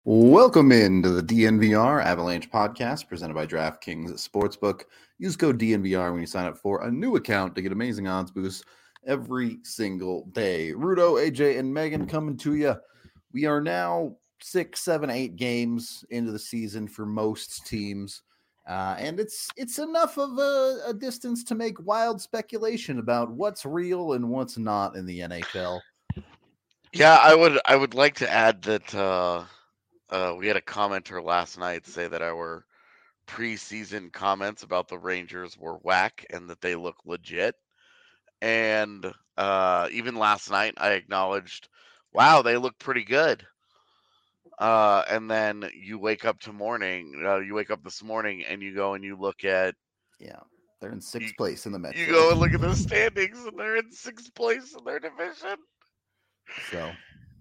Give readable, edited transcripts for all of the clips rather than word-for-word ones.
Welcome into the DNVR Avalanche podcast presented by DraftKings Sportsbook. Use code DNVR when you sign up for a new account to get amazing odds boosts every single day. Rudo, AJ, and Megan coming to you. We are now 6, 7, 8 games into the season for most teams. And it's enough of a distance to make wild speculation about what's real and what's not in the NHL. Yeah, I would like to add that we had a commenter last night say that our preseason comments about the Rangers were whack and that they look legit. And even last night, I acknowledged, wow, they look pretty good. And then you wake up this morning and you go and you look at. Yeah, they're in sixth place in the Metro. You go and look at the standings and they're in sixth place in their division. So.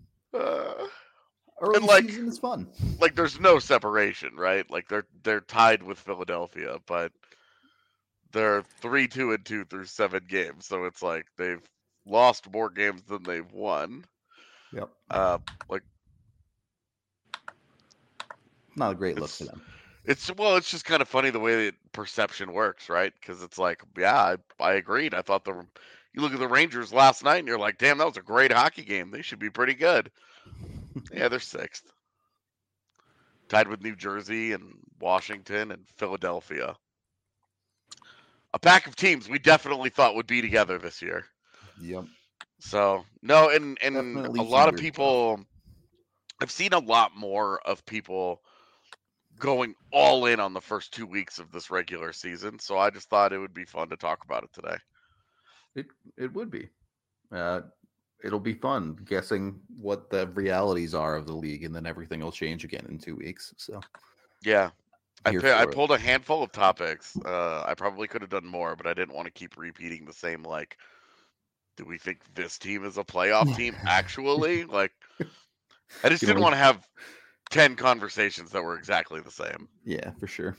Early season is fun. Like there's no separation, right? Like they're tied with Philadelphia, but they're 3-2-2 through 7 games. So it's like they've lost more games than they've won. Yep. Like not a great look for them. It's just kind of funny the way that perception works, right? Because it's like, yeah, I agreed. I thought you look at the Rangers last night and you're like, damn, that was a great hockey game. They should be pretty good. Yeah, they're 6th. Tied with New Jersey and Washington and Philadelphia. A pack of teams we definitely thought would be together this year. Yep. So, no, and definitely a lot of people, I've seen a lot more of people going all in on the first 2 weeks of this regular season. So I just thought it would be fun to talk about it today. It would be. It'll be fun guessing what the realities are of the league, and then everything will change again in 2 weeks. So, yeah, I pulled a handful of topics. I probably could have done more, but I didn't want to keep repeating the same. Like, do we think this team is a playoff team? Actually, like, I just didn't want to have 10 conversations that were exactly the same. Yeah, for sure.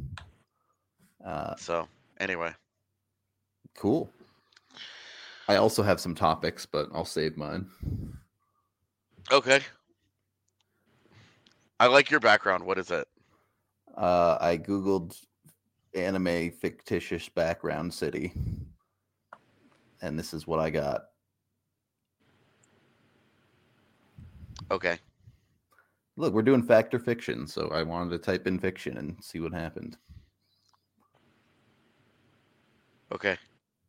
So, anyway, cool. I also have some topics, but I'll save mine. Okay. I like your background. What is it? I Googled anime fictitious background city, and this is what I got. Okay. Look, we're doing fact or fiction, so I wanted to type in fiction and see what happened. Okay.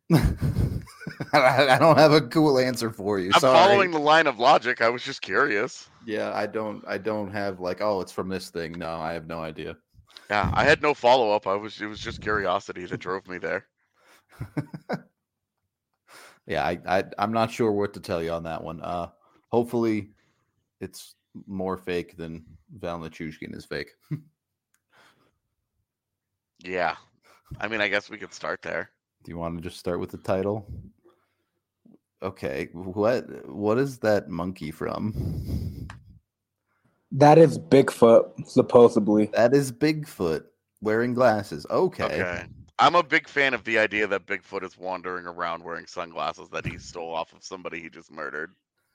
I don't have a cool answer for you. I'm following the line of logic. I was just curious. Yeah, I don't have like, oh, it's from this thing. No, I have no idea. Yeah, I had no follow up. It was just curiosity that drove me there. Yeah, I'm not sure what to tell you on that one. Hopefully it's more fake than Val Nichushkin is fake. Yeah. I mean, I guess we could start there. Do you want to just start with the title? Okay. What is that monkey from? That is Bigfoot, supposedly. That is Bigfoot wearing glasses. Okay. I'm a big fan of the idea that Bigfoot is wandering around wearing sunglasses that he stole off of somebody he just murdered.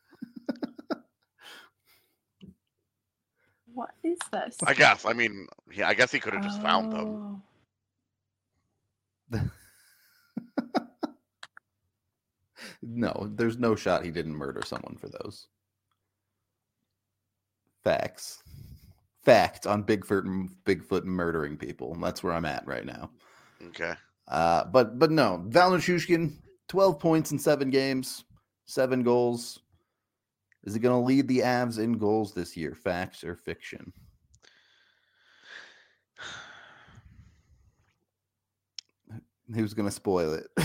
What is this? I guess. I mean, I guess he could have just found them. No, there's no shot he didn't murder someone for those. Facts on Bigfoot murdering people. That's where I'm at right now. Okay. But no, Val Nichushkin, 12 points in 7 games, 7 goals. Is he going to lead the Avs in goals this year? Facts or fiction? Who's going to spoil it?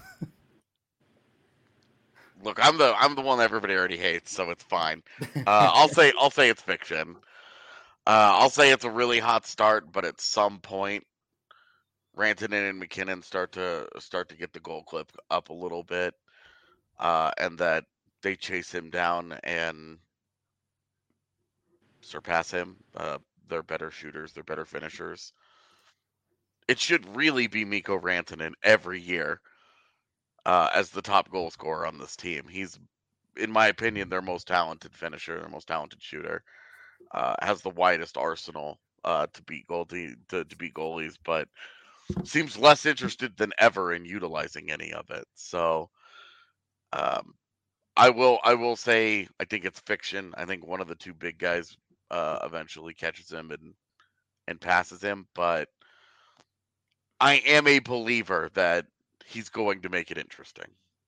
Look, I'm the one that everybody already hates, so it's fine. I'll say it's fiction. I'll say it's a really hot start, but at some point, Rantanen and McKinnon start to get the goal clip up a little bit, and that they chase him down and surpass him. They're better shooters. They're better finishers. It should really be Mikko Rantanen every year as the top goal scorer on this team. He's, in my opinion, their most talented finisher, their most talented shooter. has the widest arsenal to beat goalies, but seems less interested than ever in utilizing any of it. So um, I will say I think it's fiction. I think one of the two big guys eventually catches him and passes him, but I am a believer that he's going to make it interesting.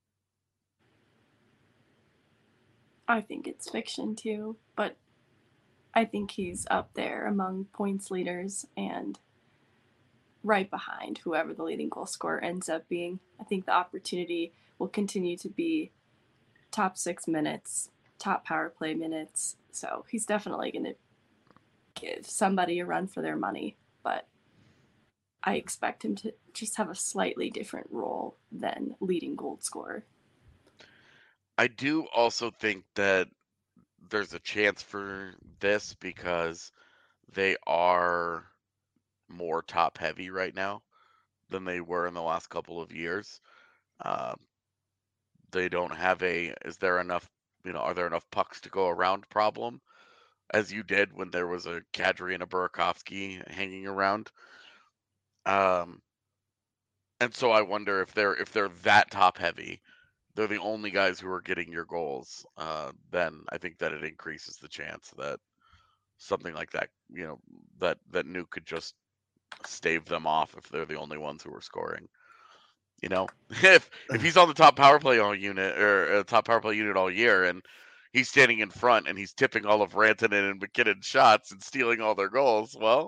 I think it's fiction too, but I think he's up there among points leaders and right behind whoever the leading goal scorer ends up being. I think the opportunity will continue to be top 6 minutes, top power play minutes. So he's definitely going to give somebody a run for their money, but I expect him to just have a slightly different role than leading goal scorer. I do also think that there's a chance for this because they are more top heavy right now than they were in the last couple of years. Um, they don't have is there enough, are there enough pucks to go around problem as you did when there was a Kadri and a Burakovsky hanging around. Um, and so I wonder if they're that top heavy, they're the only guys who are getting your goals. Then I think that it increases the chance that something like that, that Nuke could just stave them off if they're the only ones who are scoring. If he's on the top power play all unit or top power play unit all year and he's standing in front and he's tipping all of Rantanen and McKinnon shots and stealing all their goals, well,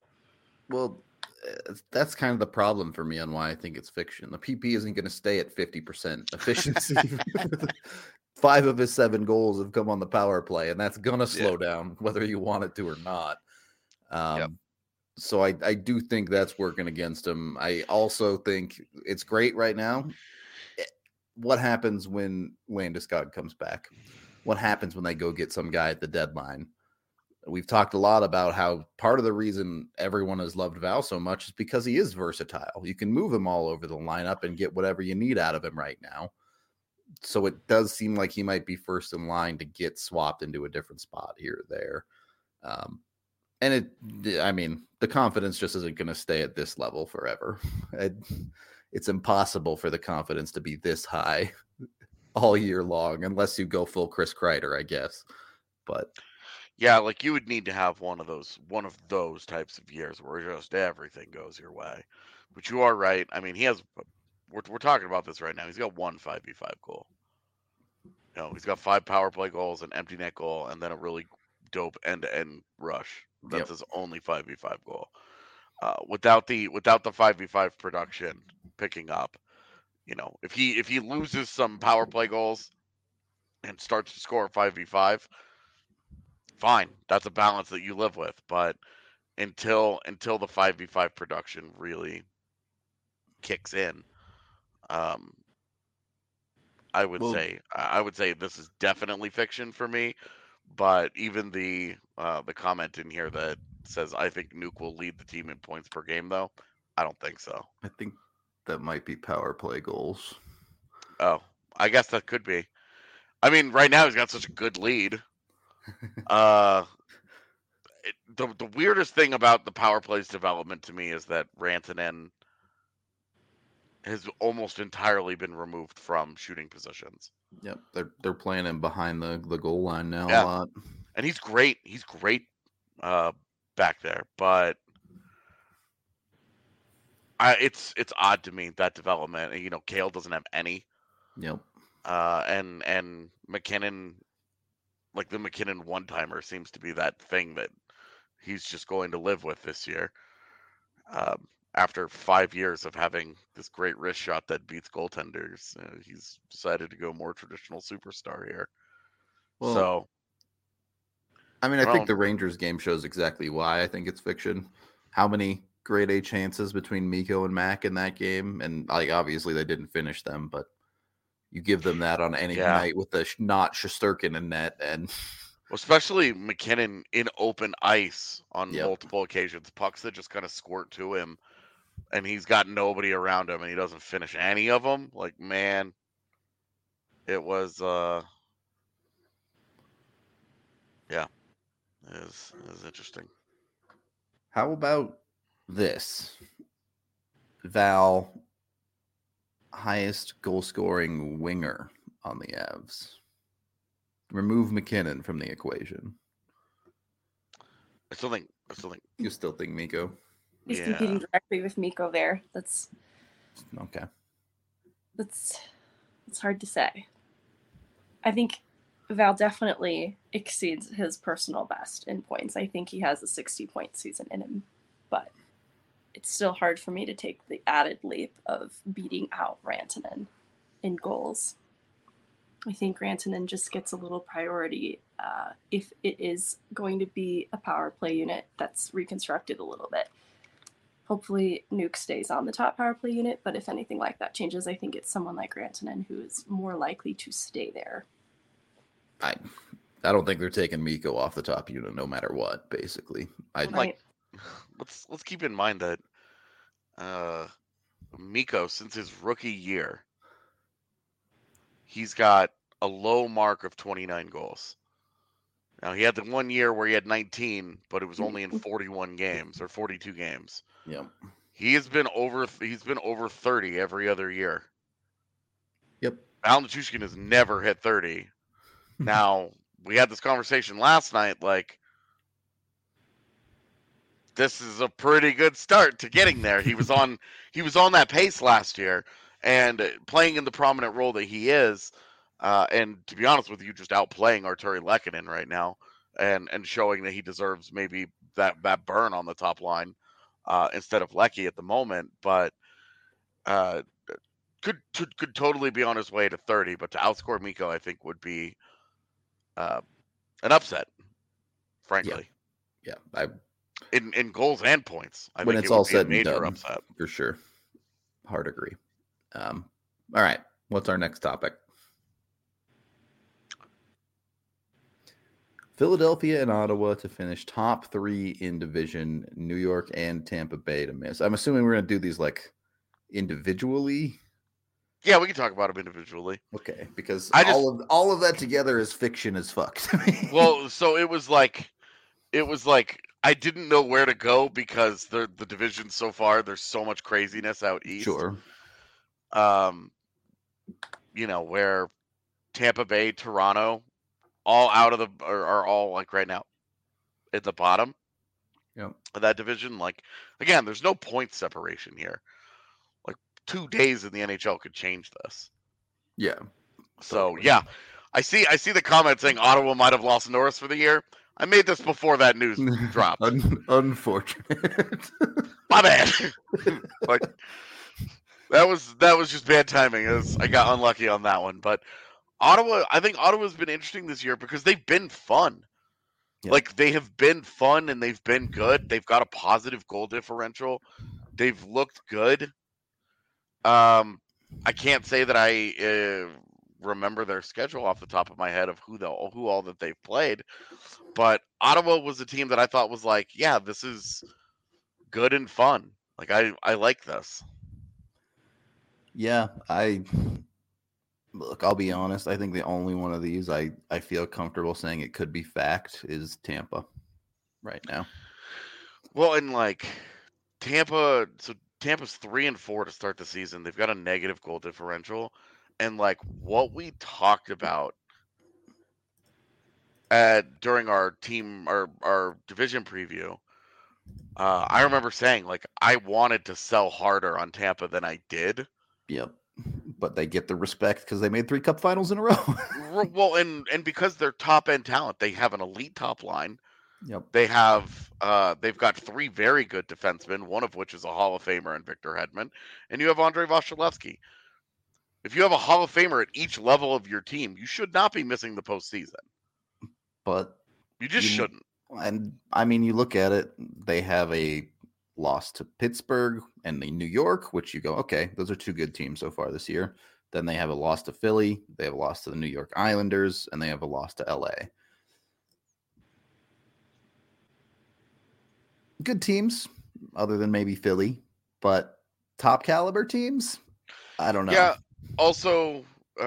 that's kind of the problem for me on why I think it's fiction. The PP isn't going to stay at 50% efficiency. 5 of his 7 goals have come on the power play, and that's going to slow down whether you want it to or not. So I do think that's working against him. I also think it's great right now. What happens when Landeskog comes back? What happens when they go get some guy at the deadline? We've talked a lot about how part of the reason everyone has loved Val so much is because he is versatile. You can move him all over the lineup and get whatever you need out of him right now. So it does seem like he might be first in line to get swapped into a different spot here or there. And the confidence just isn't going to stay at this level forever. It's impossible for the confidence to be this high all year long, unless you go full Chris Kreider, I guess. But yeah, like you would need to have one of those types of years where just everything goes your way. But you are right. I mean, we're talking about this right now. He's got 1 5v5 goal. He's got 5 power play goals, an empty net goal, and then a really dope end-to-end rush. That's his only 5v5 goal. Without the 5v5 production picking up, if he loses some power play goals and starts to score 5v5, fine. That's a balance that you live with. But until the 5v5 production really kicks in, I would say this is definitely fiction for me. But even the comment in here that says I think Nuke will lead the team in points per game, though, I don't think so. I think that might be power play goals. Oh, I guess that could be. I mean, right now he's got such a good lead. The weirdest thing about the power plays development to me is that Rantanen has almost entirely been removed from shooting positions. Yep, they're playing him behind the goal line now a lot, and he's great. He's great back there, but it's odd to me that development. Cale doesn't have any. Yep. And McKinnon, like the McKinnon one-timer, seems to be that thing that he's just going to live with this year. After 5 years of having this great wrist shot that beats goaltenders, he's decided to go more traditional superstar here. Well, so, I think the Rangers game shows exactly why I think it's fiction. How many grade A chances between Mikko and Mac in that game? And obviously they didn't finish them, but you give them that on any night with the not Shesterkin in net, and especially McKinnon in open ice on multiple occasions, pucks that just kind of squirt to him, and he's got nobody around him, and he doesn't finish any of them. Like, man, it was is interesting. How about this? Val, highest goal scoring winger on the Avs. Remove McKinnon from the equation. I still think. You still think Mikko? He's competing directly with Mikko there. That's okay. It's hard to say. I think Val definitely exceeds his personal best in points. I think he has a 60-point season in him, but it's still hard for me to take the added leap of beating out Rantanen in goals. I think Rantanen just gets a little priority if it is going to be a power play unit that's reconstructed a little bit. Hopefully Nuke stays on the top power play unit, but if anything like that changes, I think it's someone like Rantanen who is more likely to stay there. I don't think they're taking Mikko off the top unit no matter what, basically. Let's keep in mind that Mikko, since his rookie year, he's got a low mark of 29 goals. Now, he had the 1 year where he had 19, but it was only in 41 games or 42 games. Yep. He's been over 30 every other year. Yep. Al Nichushkin has never hit 30. Now, we had this conversation last night, like, this is a pretty good start to getting there. He was on that pace last year, and playing in the prominent role that he is, and to be honest with you, just outplaying Arturi Lehkonen right now, and showing that he deserves maybe that burn on the top line instead of Lecky at the moment, but could totally be on his way to 30. But to outscore Mikko, I think would be an upset, frankly. Yeah. In goals and points, I when think it's it would all be said a major and done, upset for sure. Hard agree. All right, what's our next topic? Philadelphia and Ottawa to finish top 3 in division. New York and Tampa Bay to miss. I'm assuming we're gonna do these like individually. Yeah, we can talk about them individually. Okay, because all of that together is fiction as fuck to me. Well, so it was like I didn't know where to go because the division so far, there's so much craziness out east. Sure. Where Tampa Bay, Toronto, all out of are all like right now at the bottom of that division. Like, again, there's no point separation here. Like 2 days in the NHL could change this. Yeah. So yeah, I see the comment saying Ottawa might have lost Norris for the year. I made this before that news dropped. Unfortunate. My bad. Like that was just bad timing. I got unlucky on that one. But Ottawa, I think Ottawa's been interesting this year because they've been fun. Yeah. Like they have been fun and they've been good. They've got a positive goal differential. They've looked good. I can't say that I remember their schedule off the top of my head of who all that they've played, but Ottawa was a team that I thought was like, yeah, this is good and fun. Like I like this. Yeah, I'll be honest. I think the only one of these I feel comfortable saying it could be fact is Tampa right now. Well, and like Tampa's 3-4 to start the season. They've got a negative goal differential. And like what we talked about during our division preview, I remember saying like I wanted to sell harder on Tampa than I did. Yep, but they get the respect because they made 3 Cup finals in a row. Well, and because they're top end talent, they have an elite top line. Yep, they've got 3 very good defensemen, one of which is a Hall of Famer in Victor Hedman, and you have Andrei Vasilevsky. If you have a Hall of Famer at each level of your team, you should not be missing the postseason. But you just shouldn't. And I mean, you look at it, they have a loss to Pittsburgh and the New York, which you go, okay, those are 2 good teams so far this year. Then they have a loss to Philly, they have a loss to the New York Islanders, and they have a loss to LA. Good teams, other than maybe Philly, but top caliber teams, I don't know. Yeah. Also,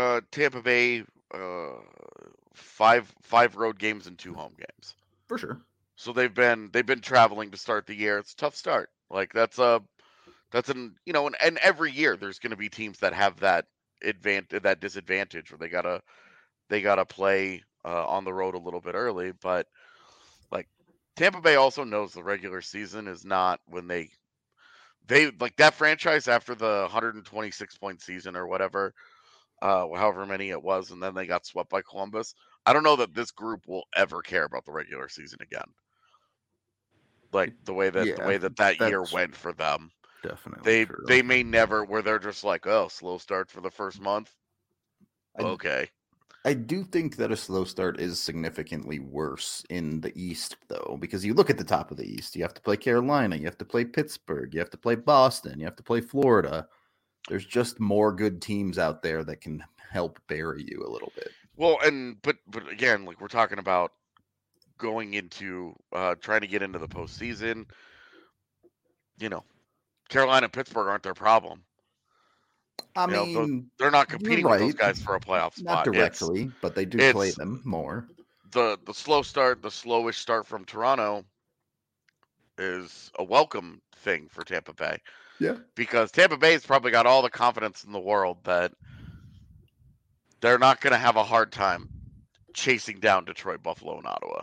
Tampa Bay, 5 road games and 2 home games. For sure. So they've been traveling to start the year. It's a tough start. Like that's an and every year there's going to be teams that have that disadvantage where they gotta play on the road a little bit early. But like Tampa Bay also knows the regular season is not when they like that franchise after the 126-point season or whatever, however many it was, and then they got swept by Columbus. I don't know that this group will ever care about the regular season again. Like the way that year went for them. Definitely they may never, where they're just like, oh, slow start for the first month. Okay. I do think that a slow start is significantly worse in the East, though, because you look at the top of the East. You have to play Carolina, you have to play Pittsburgh, you have to play Boston, you have to play Florida. There's just more good teams out there that can help bury you a little bit. Well, but again, like we're talking about going into trying to get into the postseason. Carolina and Pittsburgh aren't their problem. I mean, they're not competing with those guys for a playoff spot. Not directly, but they do play them more. The slowish start from Toronto is a welcome thing for Tampa Bay. Yeah. Because Tampa Bay's probably got all the confidence in the world that they're not going to have a hard time chasing down Detroit, Buffalo, and Ottawa.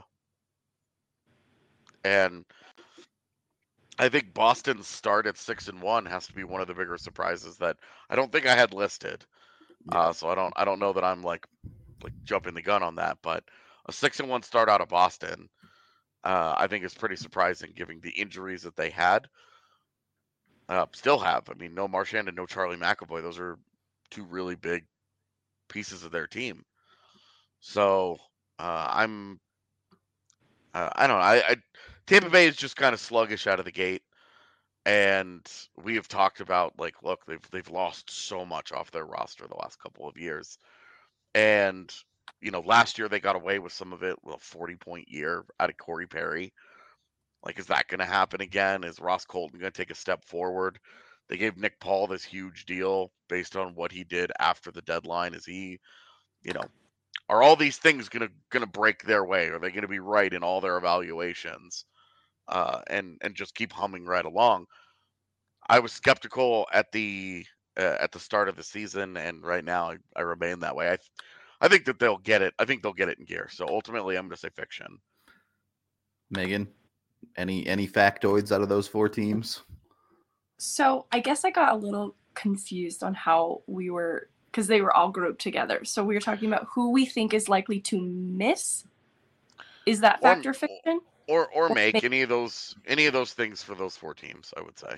And I think Boston's start at 6-1 has to be one of the bigger surprises that I don't think I had listed. Yeah. So I don't know that I'm like jumping the gun on that, but a 6-1 start out of Boston, I think is pretty surprising given the injuries that they had. Still have. I mean, no Marchand and no Charlie McAvoy. Those are two really big pieces of their team. So I don't know. Tampa Bay is just kind of sluggish out of the gate, and we have talked about look, they've lost so much off their roster the last couple of years, and last year they got away with some of it with a 40-point year out of Corey Perry. Like, is that going to happen again? Is Ross Colton going to take a step forward? They gave Nick Paul this huge deal based on what he did after the deadline. Is he, are all these things going to break their way? Are they going to be right in all their evaluations? And just keep humming right along. I was skeptical at the start of the season, and right now I remain that way. I think that they'll get it. I think they'll get it in gear. So ultimately, I'm going to say fiction. Megan, any factoids out of those four teams? So I guess I got a little confused on how we were, because they were all grouped together. So we were talking about who we think is likely to miss. Is that factor fiction? Or make any of those things for those four teams, I would say.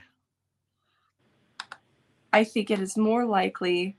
I think it is more likely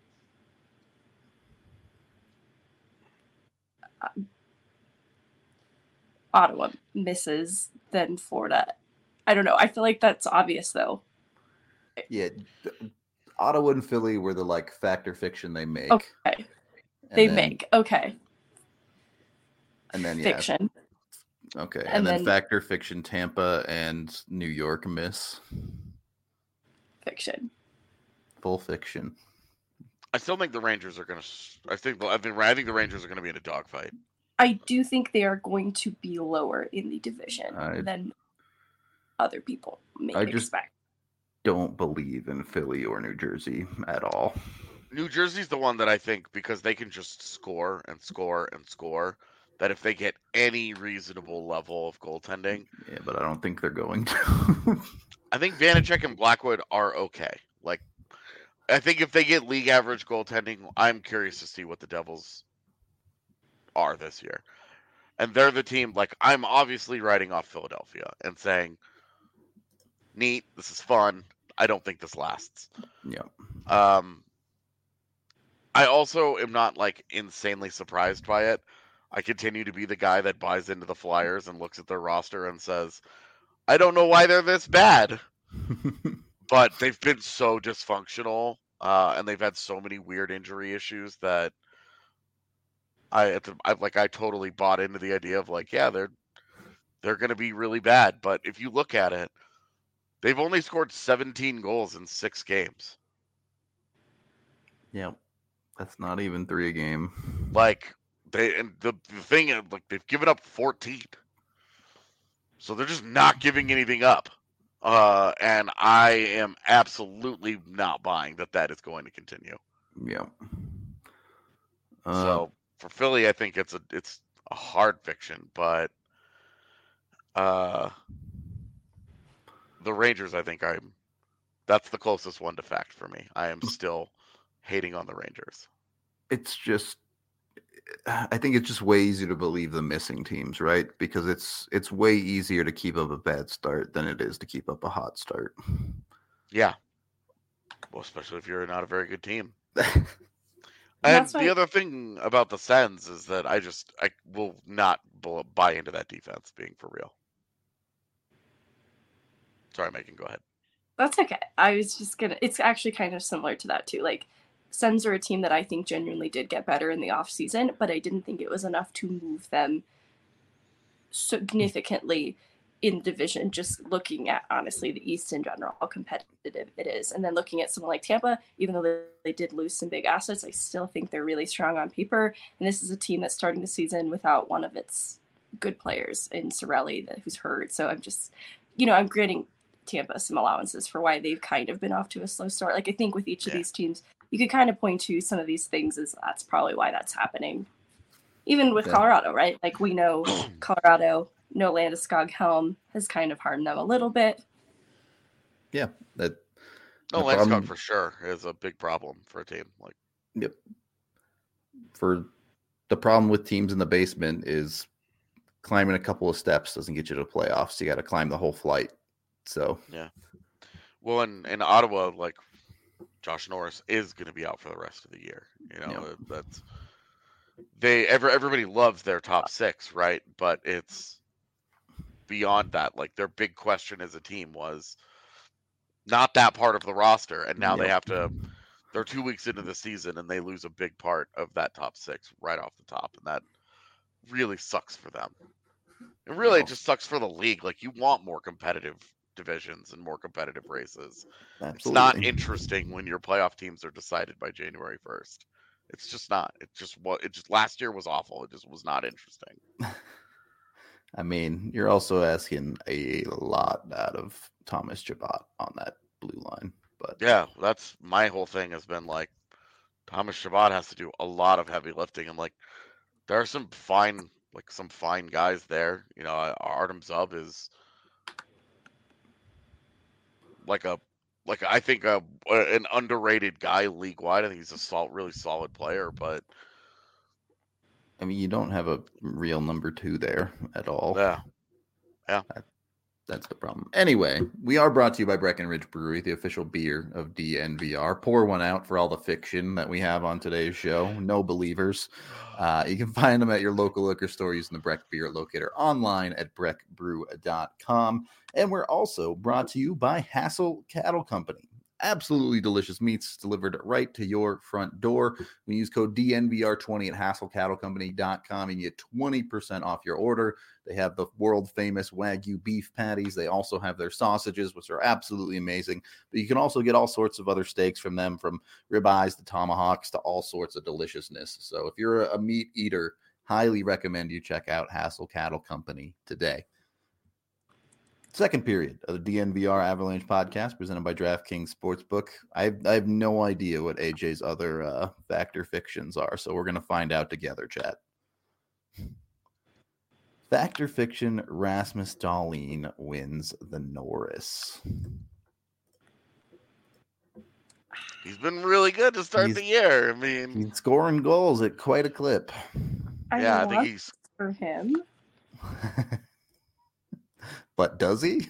Ottawa misses than Florida. I don't know. I feel like that's obvious, though. Yeah, Ottawa and Philly were the factor fiction they make. Okay, make. Okay. And then fiction. Okay, and then factor fiction Tampa and New York miss. Fiction. Full fiction. I still think the Rangers are going to. I think the Rangers are going to be in a dogfight. I do think they are going to be lower in the division than other people may expect. Don't believe in Philly or New Jersey at all. New Jersey's the one that I think, because they can just score and score and score, that if they get any reasonable level of goaltending. Yeah, but I don't think they're going to. I think Vanacek and Blackwood are okay. I think if they get league average goaltending, I'm curious to see what the Devils are this year. And they're the team, I'm obviously writing off Philadelphia and saying, neat, this is fun. I don't think this lasts. Yeah. I also am not insanely surprised by it. I continue to be the guy that buys into the Flyers and looks at their roster and says, I don't know why they're this bad. But they've been so dysfunctional, and they've had so many weird injury issues that I totally bought into the idea of they're going to be really bad. But if you look at it, they've only scored 17 goals in 6 games. Yeah, that's not even 3 a game. The thing is, they've given up 14. So they're just not giving anything up. And I am absolutely not buying that is going to continue. Yeah. So for Philly, I think it's a hard fiction, but the Rangers, I think that's the closest one to fact for me. I am still hating on the Rangers. It's just, I think it's just way easier to believe the missing teams, right? Because it's way easier to keep up a bad start than it is to keep up a hot start. Yeah. Well, especially if you're not a very good team. And And that's the why other thing about the Sens is that I will not buy into that defense being for real. Sorry, Megan, go ahead. that's okay. I was just gonna. It's actually kind of similar to that too. Like, Sens are a team that I think genuinely did get better in the off season, but I didn't think it was enough to move them significantly in the division. Just looking at honestly the East in general, how competitive it is, and then looking at someone like Tampa, even though they did lose some big assets, I still think they're really strong on paper. And this is a team that's starting the season without one of its good players in Cirelli, who's hurt. So I'm just, I'm granting Tampa some allowances for why they've kind of been off to a slow start. Like, I think with each of these teams, you could kind of point to some of these things as that's probably why that's happening. Even with Colorado, right? Like, we know Colorado, no Landeskog helm has kind of hardened them a little bit. Yeah, no, Landeskog for sure is a big problem for a team. Like, yep. For the problem with teams in the basement is climbing a couple of steps doesn't get you to the playoffs. You got to climb the whole flight. So yeah. Well, in Ottawa, like, Josh Norris is going to be out for the rest of the year. That's everybody loves their top six, right? But it's beyond that. Like, their big question as a team was not that part of the roster, and now they're 2 weeks into the season and they lose a big part of that top six right off the top, and that really sucks for them. And really, it just sucks for the league. Like, you want more competitive divisions and more competitive races. Absolutely. It's not interesting when your playoff teams are decided by January 1st. It's just not. It just last year was awful. It just was not interesting. I mean, you're also asking a lot out of Thomas Chabot on that blue line. But yeah, that's my whole thing has been like, Thomas Chabot has to do a lot of heavy lifting, and like, there are some fine guys there. Artem Zub is I think an underrated guy league wide. I think he's a really solid player, but I mean, you don't have a real number 2 there at all. Yeah. That's the problem. Anyway, we are brought to you by Breckenridge Brewery, the official beer of DNVR. Pour one out for all the fiction that we have on today's show. No believers. You can find them at your local liquor store using the Breck Beer Locator, online at breckbrew.com. And we're also brought to you by Hassel Cattle Company. Absolutely delicious meats delivered right to your front door. When you use code DNVR20 at HassleCattleCompany.com, you get 20% off your order. They have the world famous Wagyu beef patties. They also have their sausages, which are absolutely amazing. But you can also get all sorts of other steaks from them, from ribeyes to tomahawks to all sorts of deliciousness. So if you're a meat eater, highly recommend you check out Hassel Cattle Company today. Second period of the DNVR Avalanche podcast presented by DraftKings Sportsbook. I have no idea what AJ's other factor fictions are, so we're going to find out together, chat. Factor fiction, Rasmus Dahlin wins the Norris. He's been really good to start the year. I mean, he's scoring goals at quite a clip. I think he's for him. But does he?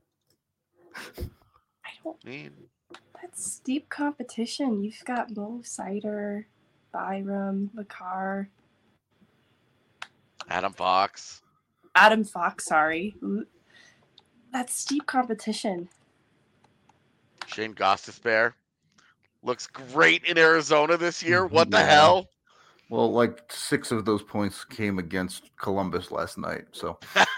I don't mean that's steep competition. You've got Mo Seider, Byram, Makar, Adam Fox, sorry. That's steep competition. Shane Gostisbehere looks great in Arizona this year. What the hell? Well, like 6 of those points came against Columbus last night, so.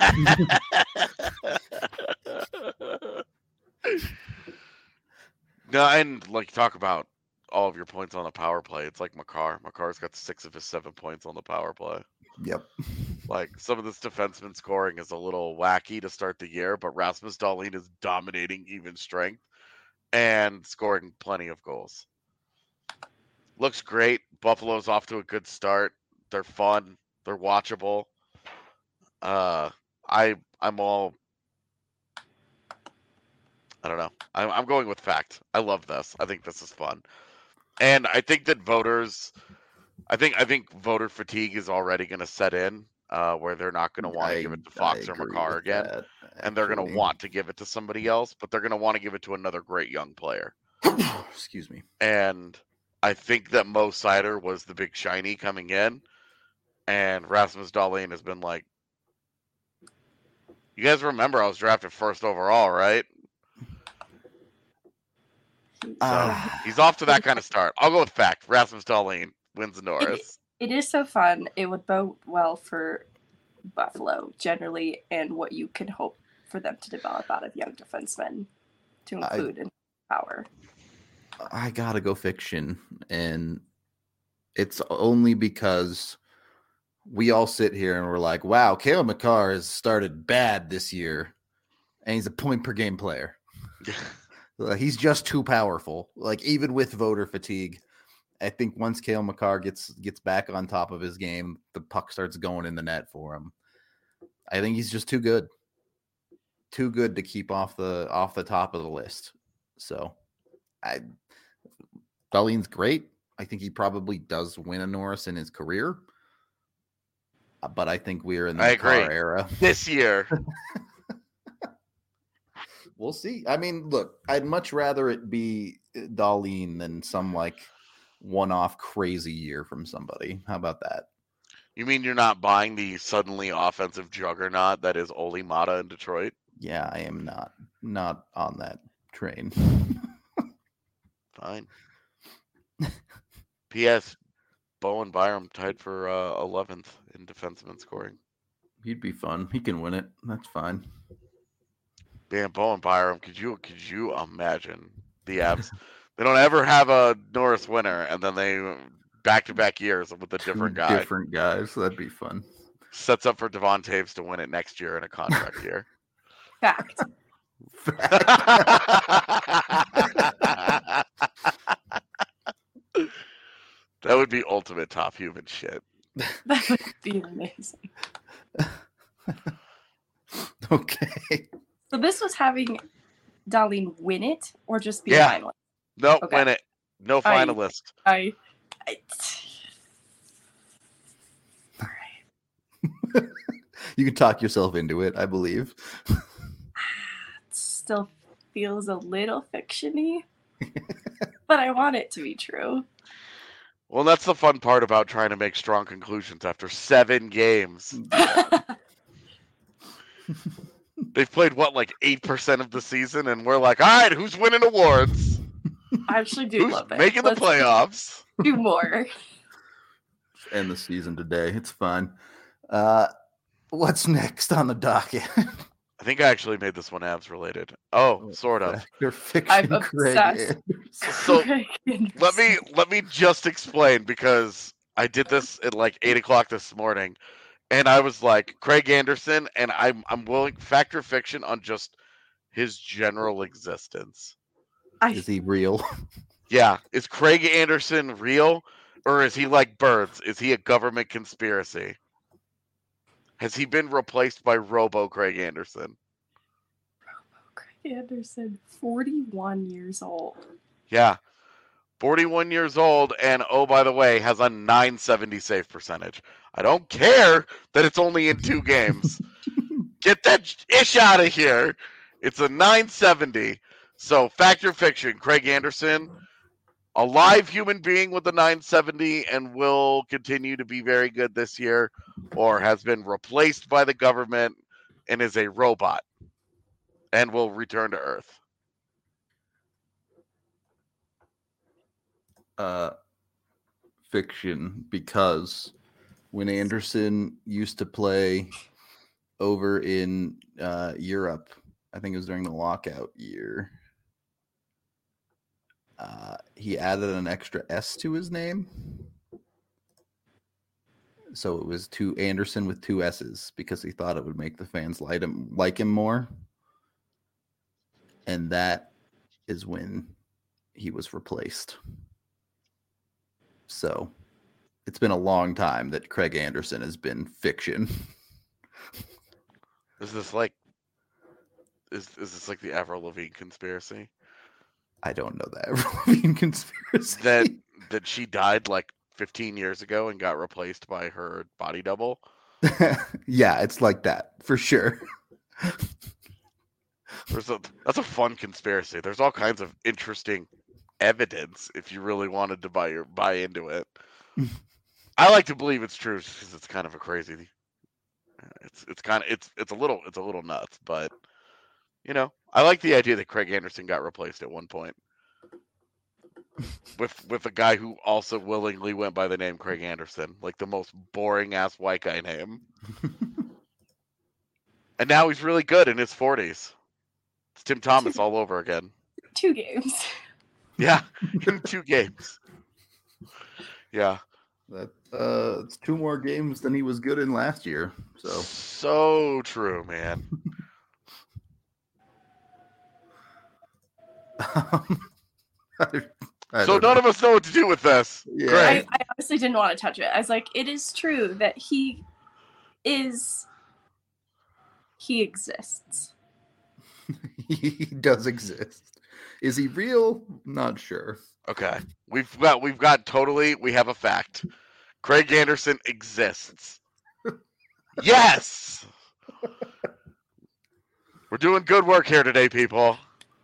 No, and like, talk about all of your points on the power play. It's like Makar. Makar's got 6 of his 7 points on the power play. Yep. Like, some of this defenseman scoring is a little wacky to start the year, but Rasmus Dahlin is dominating even strength and scoring plenty of goals. Looks great. Buffalo's off to a good start. They're fun. They're watchable. I'm all. I don't know. I'm going with fact. I love this. I think this is fun, and I think that voters. I think voter fatigue is already going to set in, where they're not going to want to give it to Fox or Makar again, and they're going to want to give it to somebody else, but they're going to want to give it to another great young player. Excuse me. And I think that Mo Seider was the big shiny coming in, and Rasmus Dahlin has been like, you guys remember I was drafted first overall, right? So he's off to that kind of start. I'll go with fact. Rasmus Dahlin wins the Norris. It is so fun. It would bode well for Buffalo generally, and what you can hope for them to develop out of young defensemen to include in power. I gotta go fiction, and it's only because we all sit here and we're like, wow, Cale Makar has started bad this year, and he's a point per game player. He's just too powerful. Like, even with voter fatigue, I think once Cale Makar gets back on top of his game, the puck starts going in the net for him. I think he's just too good to keep off the top of the list. So, Dahlin's great. I think he probably does win a Norris in his career, but I think we're in the Makar era this year. We'll see. I mean, look, I'd much rather it be Dahlin than some like one-off crazy year from somebody. How about that? You mean you're not buying the suddenly offensive juggernaut that is Oli Mata in Detroit? Yeah, I am not on that train. Fine. P.S. Bowen Byram tied for 11th in defenseman scoring. He'd be fun. He can win it. That's fine. Man, Bowen Byram, could you imagine the Avs? They don't ever have a Norris winner, and then they back-to-back years with a different guy. Different guys. That'd be fun. Sets up for Devon Taves to win it next year in a contract year. Fact. That would be ultimate top human shit. That would be amazing. Okay. So this was having Dahlin win it or just be a finalist? No, win it. No finalist. All right. You can talk yourself into it, I believe. It still feels a little fiction-y, but I want it to be true. Well, that's the fun part about trying to make strong conclusions after 7 games. They've played, like 8% of the season, and we're like, all right, who's winning awards? I actually do love it. Making the playoffs? Do more. End the season today. It's fine. What's next on the docket? I think I actually made this one Avs related. Oh, sort of. Your fiction, I'm obsessed. So let me just explain, because I did this at like 8:00 this morning, and I was like, Craig Anderson, and I'm willing fact or fiction on just his general existence. Is he real? Yeah. Is Craig Anderson real, or is he like Birds? Is he a government conspiracy? Has he been replaced by Robo Craig Anderson? Robo Craig Anderson, 41 years old. Yeah. 41 years old, and oh, by the way, has a .970 save percentage. I don't care that it's only in 2 games. Get that ish out of here. It's a .970. So, fact or fiction, Craig Anderson, a live human being with a .970 and will continue to be very good this year, or has been replaced by the government and is a robot and will return to Earth. Fiction, because when Anderson used to play over in Europe, I think it was during the lockout year, he added an extra S to his name. So it was to Anderson with 2 S's because he thought it would make the fans like him more. And that is when he was replaced. So it's been a long time that Craig Anderson has been fiction. Is this like the Avril Lavigne conspiracy? I don't know that Avril Lavigne conspiracy. That she died like 15 years ago and got replaced by her body double? Yeah, it's like that for sure. That's a fun conspiracy. There's all kinds of interesting evidence if you really wanted to buy into it. I like to believe it's true because it's kind of a crazy. It's a little nuts, but I like the idea that Craig Anderson got replaced at one point with a guy who also willingly went by the name Craig Anderson, like the most boring ass white guy name. And now he's really good in his 40s. It's Tim Thomas all over again. 2 games. Yeah, in 2 games. Yeah. It's 2 more games than he was good in last year. So true, man. So none of us know what to do with this. Yeah. Great. I honestly didn't want to touch it. I was like, it is true that he exists. He does exist. Is he real? Not sure. Okay. We have a fact. Craig Anderson exists. Yes. We're doing good work here today, people.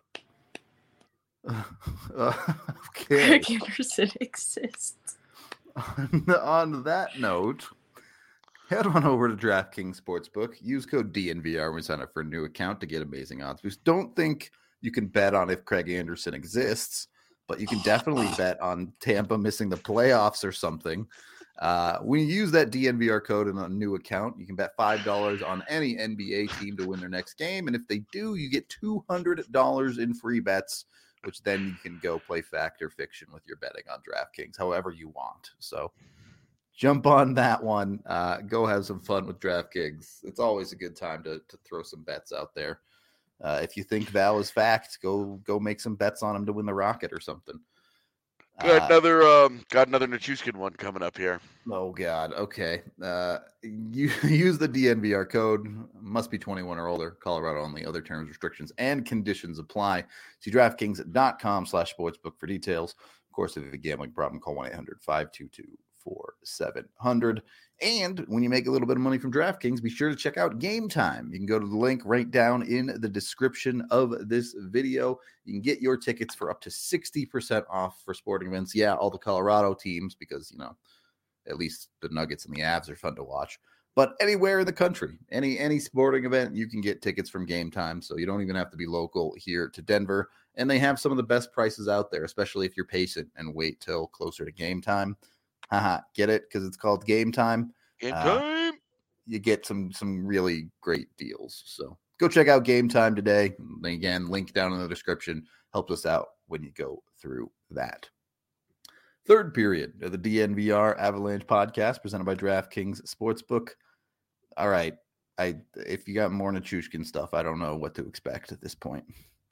Okay. Craig Anderson exists. On that note, head on over to DraftKings Sportsbook. Use code DNVR when you sign up for a new account to get amazing odds boosts. Don't think you can bet on if Craig Anderson exists, but you can definitely bet on Tampa missing the playoffs or something. When you use that DNVR code in a new account, you can bet $5 on any NBA team to win their next game. And if they do, you get $200 in free bets, which then you can go play fact or fiction with your betting on DraftKings, however you want. So jump on that one. Go have some fun with DraftKings. It's always a good time to throw some bets out there. If you think Val is fact, go make some bets on him to win the Rocket or something. Got another Nichushkin one coming up here. Oh God. Okay. You use the DNVR code. Must be 21 or older. Colorado only. Other terms, restrictions, and conditions apply. See DraftKings.com/sportsbook for details. Of course, if you have a gambling problem, call 1-800-522-4700. And when you make a little bit of money from DraftKings, be sure to check out Game Time. You can go to the link right down in the description of this video. You can get your tickets for up to 60% off for sporting events. Yeah, all the Colorado teams, because, at least the Nuggets and the Avs are fun to watch. But anywhere in the country, any sporting event, you can get tickets from Game Time. So you don't even have to be local here to Denver. And they have some of the best prices out there, especially if you're patient and wait till closer to game time. Get it? Because it's called Game Time. Game time. You get some really great deals. So go check out Game Time today. And again, link down in the description. Helps us out when you go through that. Third period of the DNVR Avalanche podcast presented by DraftKings Sportsbook. All right. If you got more Nichushkin stuff, I don't know what to expect at this point.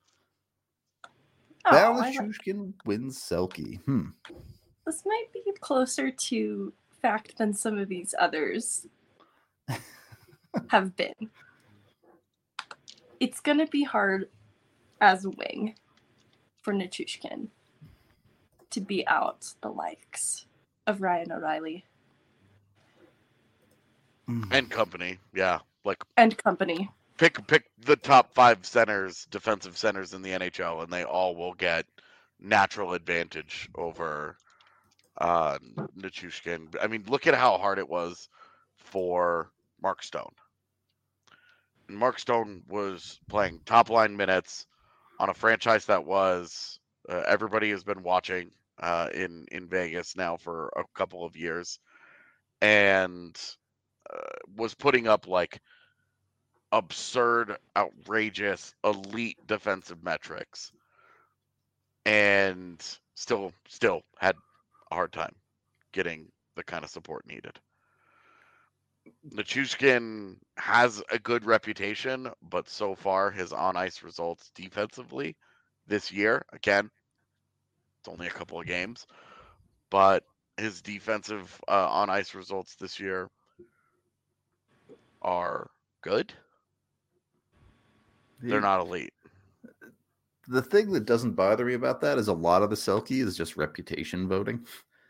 Val Nichushkin wins Selke. This might be closer to fact than some of these others have been. It's going to be hard as a wing for Nichushkin to be out the likes of Ryan O'Reilly. And company. Yeah. And company. Pick the top 5 defensive centers in the NHL, and they all will get natural advantage over Nichushkin. I mean, look at how hard it was for Mark Stone. And Mark Stone was playing top line minutes on a franchise that was everybody has been watching in Vegas now for a couple of years, and was putting up absurd, outrageous, elite defensive metrics, and still had a hard time getting the kind of support needed. Nichushkin has a good reputation, but so far his on-ice results defensively this year, again, it's only a couple of games, but his defensive on-ice results this year are good. They're not elite. The thing that doesn't bother me about that is a lot of the Selke is just reputation voting.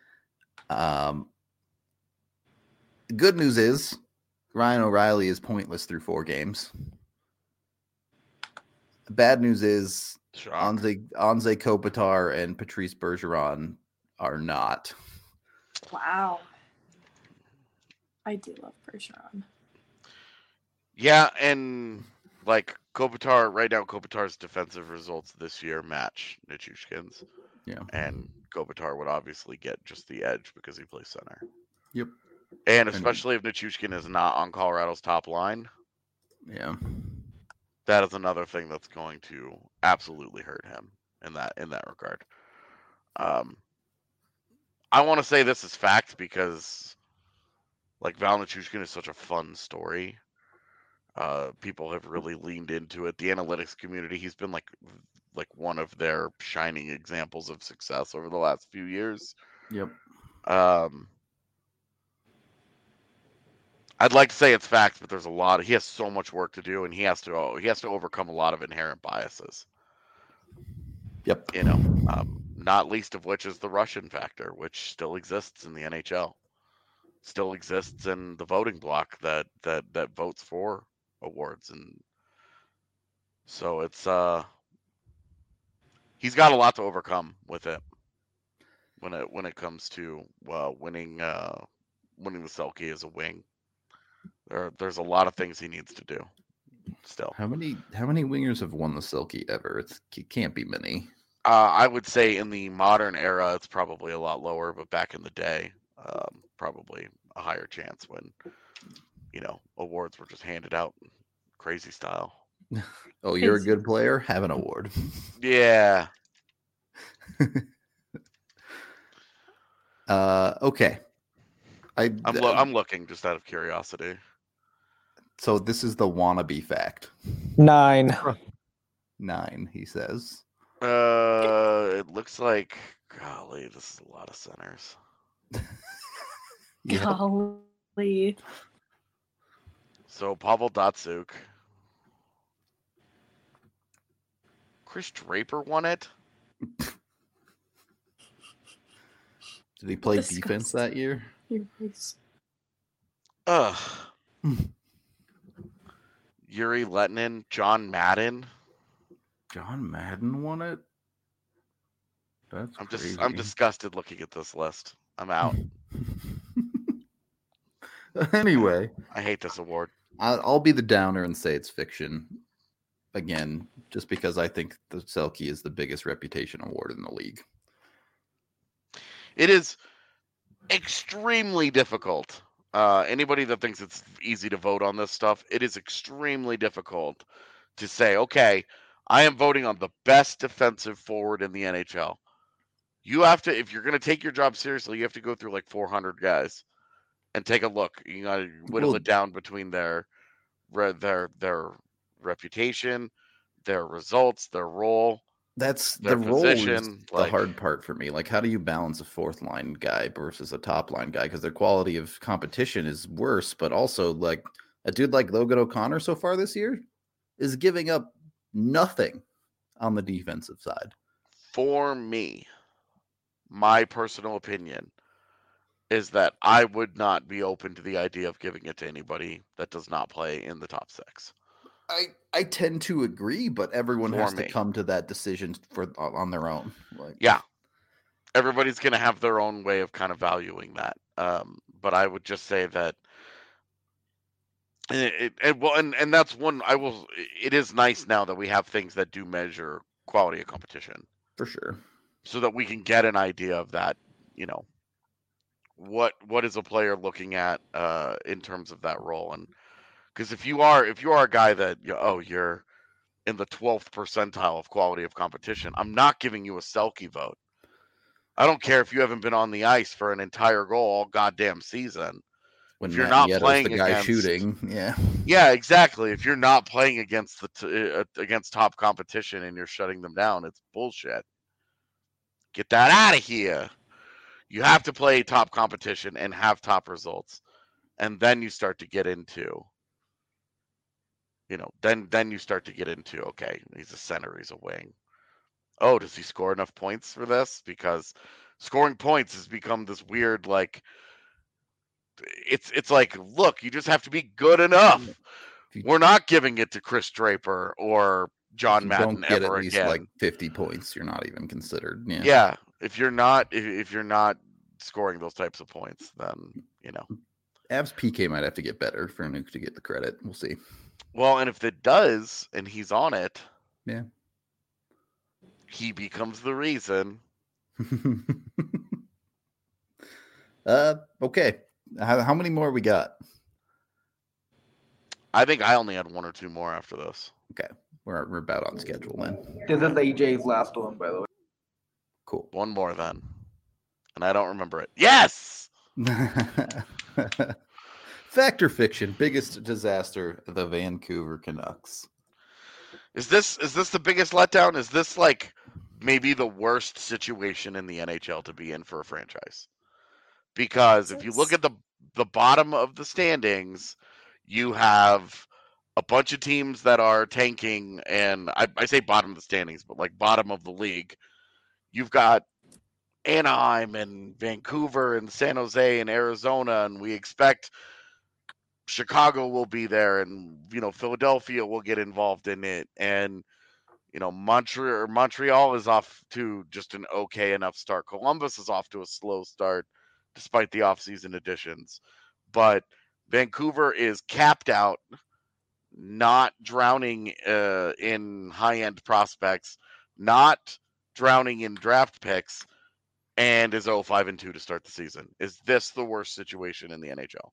Good news is Ryan O'Reilly is pointless through 4 games. Bad news is Anze Kopitar and Patrice Bergeron are not. Wow. I do love Bergeron. Yeah, and like Kopitar, right now Kopitar's defensive results this year match Nichushkin's. Yeah. And Kopitar would obviously get just the edge because he plays center. Yep. And especially if Nichushkin is not on Colorado's top line. Yeah. That is another thing that's going to absolutely hurt him in that regard. I want to say this is fact because like Val Nichushkin is such a fun story. People have really leaned into it. The analytics community, he's been like one of their shining examples of success over the last few years. Yep. I'd like to say it's fact, but there's a lot. He has so much work to do, and he has to overcome a lot of inherent biases. Yep. You know, not least of which is the Russian factor, which still exists in the NHL, still exists in the voting block that votes for awards, and so it's he's got a lot to overcome with it when it comes to winning the Selke as a wing. There's a lot of things he needs to do still. How many wingers have won the Selke ever? It can't be many. I would say in the modern era, it's probably a lot lower, but back in the day, probably a higher chance when, awards were just handed out crazy style. Oh, you're a good player? Have an award. Yeah. Okay. I'm looking just out of curiosity. So this is the wannabe fact. 9. 9, he says. It looks like, golly, this is a lot of centers. Yeah. Golly. So Pavel Datsyuk. Chris Draper won it. Did he play defense that year? Ugh. Yuri Letnin, John Madden. John Madden won it? I'm disgusted looking at this list. I'm out. Anyway, I hate this award. I'll be the downer and say it's fiction. Again, just because I think the Selke is the biggest reputation award in the league. It is extremely difficult. Anybody that thinks it's easy to vote on this stuff, it is extremely difficult to say, okay, I am voting on the best defensive forward in the NHL. You have to, if you're going to take your job seriously, you have to go through like 400 guys and take a look. You got to whittle it down between their reputation, their results, their role. That's their the role position, is the hard part for me. Like, how do you balance a 4th line guy versus a top line guy? Because their quality of competition is worse, but also like a dude like Logan O'Connor so far this year is giving up nothing on the defensive side. For me, my personal opinion is that I would not be open to the idea of giving it to anybody that does not play in the top 6. I tend to agree, but everyone has to come to that decision on their own. Yeah, everybody's going to have their own way of kind of valuing that. But I would just say that and that's one I will. It is nice now that we have things that do measure quality of competition for sure, so that we can get an idea of that. What is a player looking at in terms of that role. And because if you are a guy that you're in the 12th percentile of quality of competition, I'm not giving you a Selke vote. I don't care if you haven't been on the ice for an entire goal all goddamn season. When if you're Matt not Nieto's playing the guy against, shooting, yeah, exactly. If you're not playing against against top competition and you're shutting them down, it's bullshit. Get that out of here. You have to play top competition and have top results, and then you start to get into, then you start to get into, okay, he's a center, he's a wing. Oh, does he score enough points for this? Because scoring points has become this weird, like, it's like, look, you just have to be good enough. We're not giving it to Chris Draper or John you Madden don't get ever at least again. like 50 points, you're not even considered. Yeah, if you're not scoring those types of points, then Avs PK might have to get better for Nuke to get the credit. We'll see. Well, and if it does, and he's on it, Yeah, he becomes the reason. Okay. How many more we got? I think I only had one or two more after this. Okay, we're about on schedule then. This is AJ's last one, by the way. Cool. One more then, and I don't remember it. Yes. Fact or fiction? Biggest disaster: the Vancouver Canucks. Is this the biggest letdown? Is this like maybe the worst situation in the NHL to be in for a franchise? Because if you look at the bottom of the standings, you have a bunch of teams that are tanking, and I say bottom of the standings, but like bottom of the league. You've got Anaheim and Vancouver and San Jose and Arizona, and we expect Chicago will be there, and Philadelphia will get involved in it, and Montreal is off to just an okay enough start. Columbus is off to a slow start despite the offseason additions, but Vancouver is capped out, not drowning in high-end prospects, not drowning in draft picks, and is 0-5-2 to start the season. Is this the worst situation in the NHL?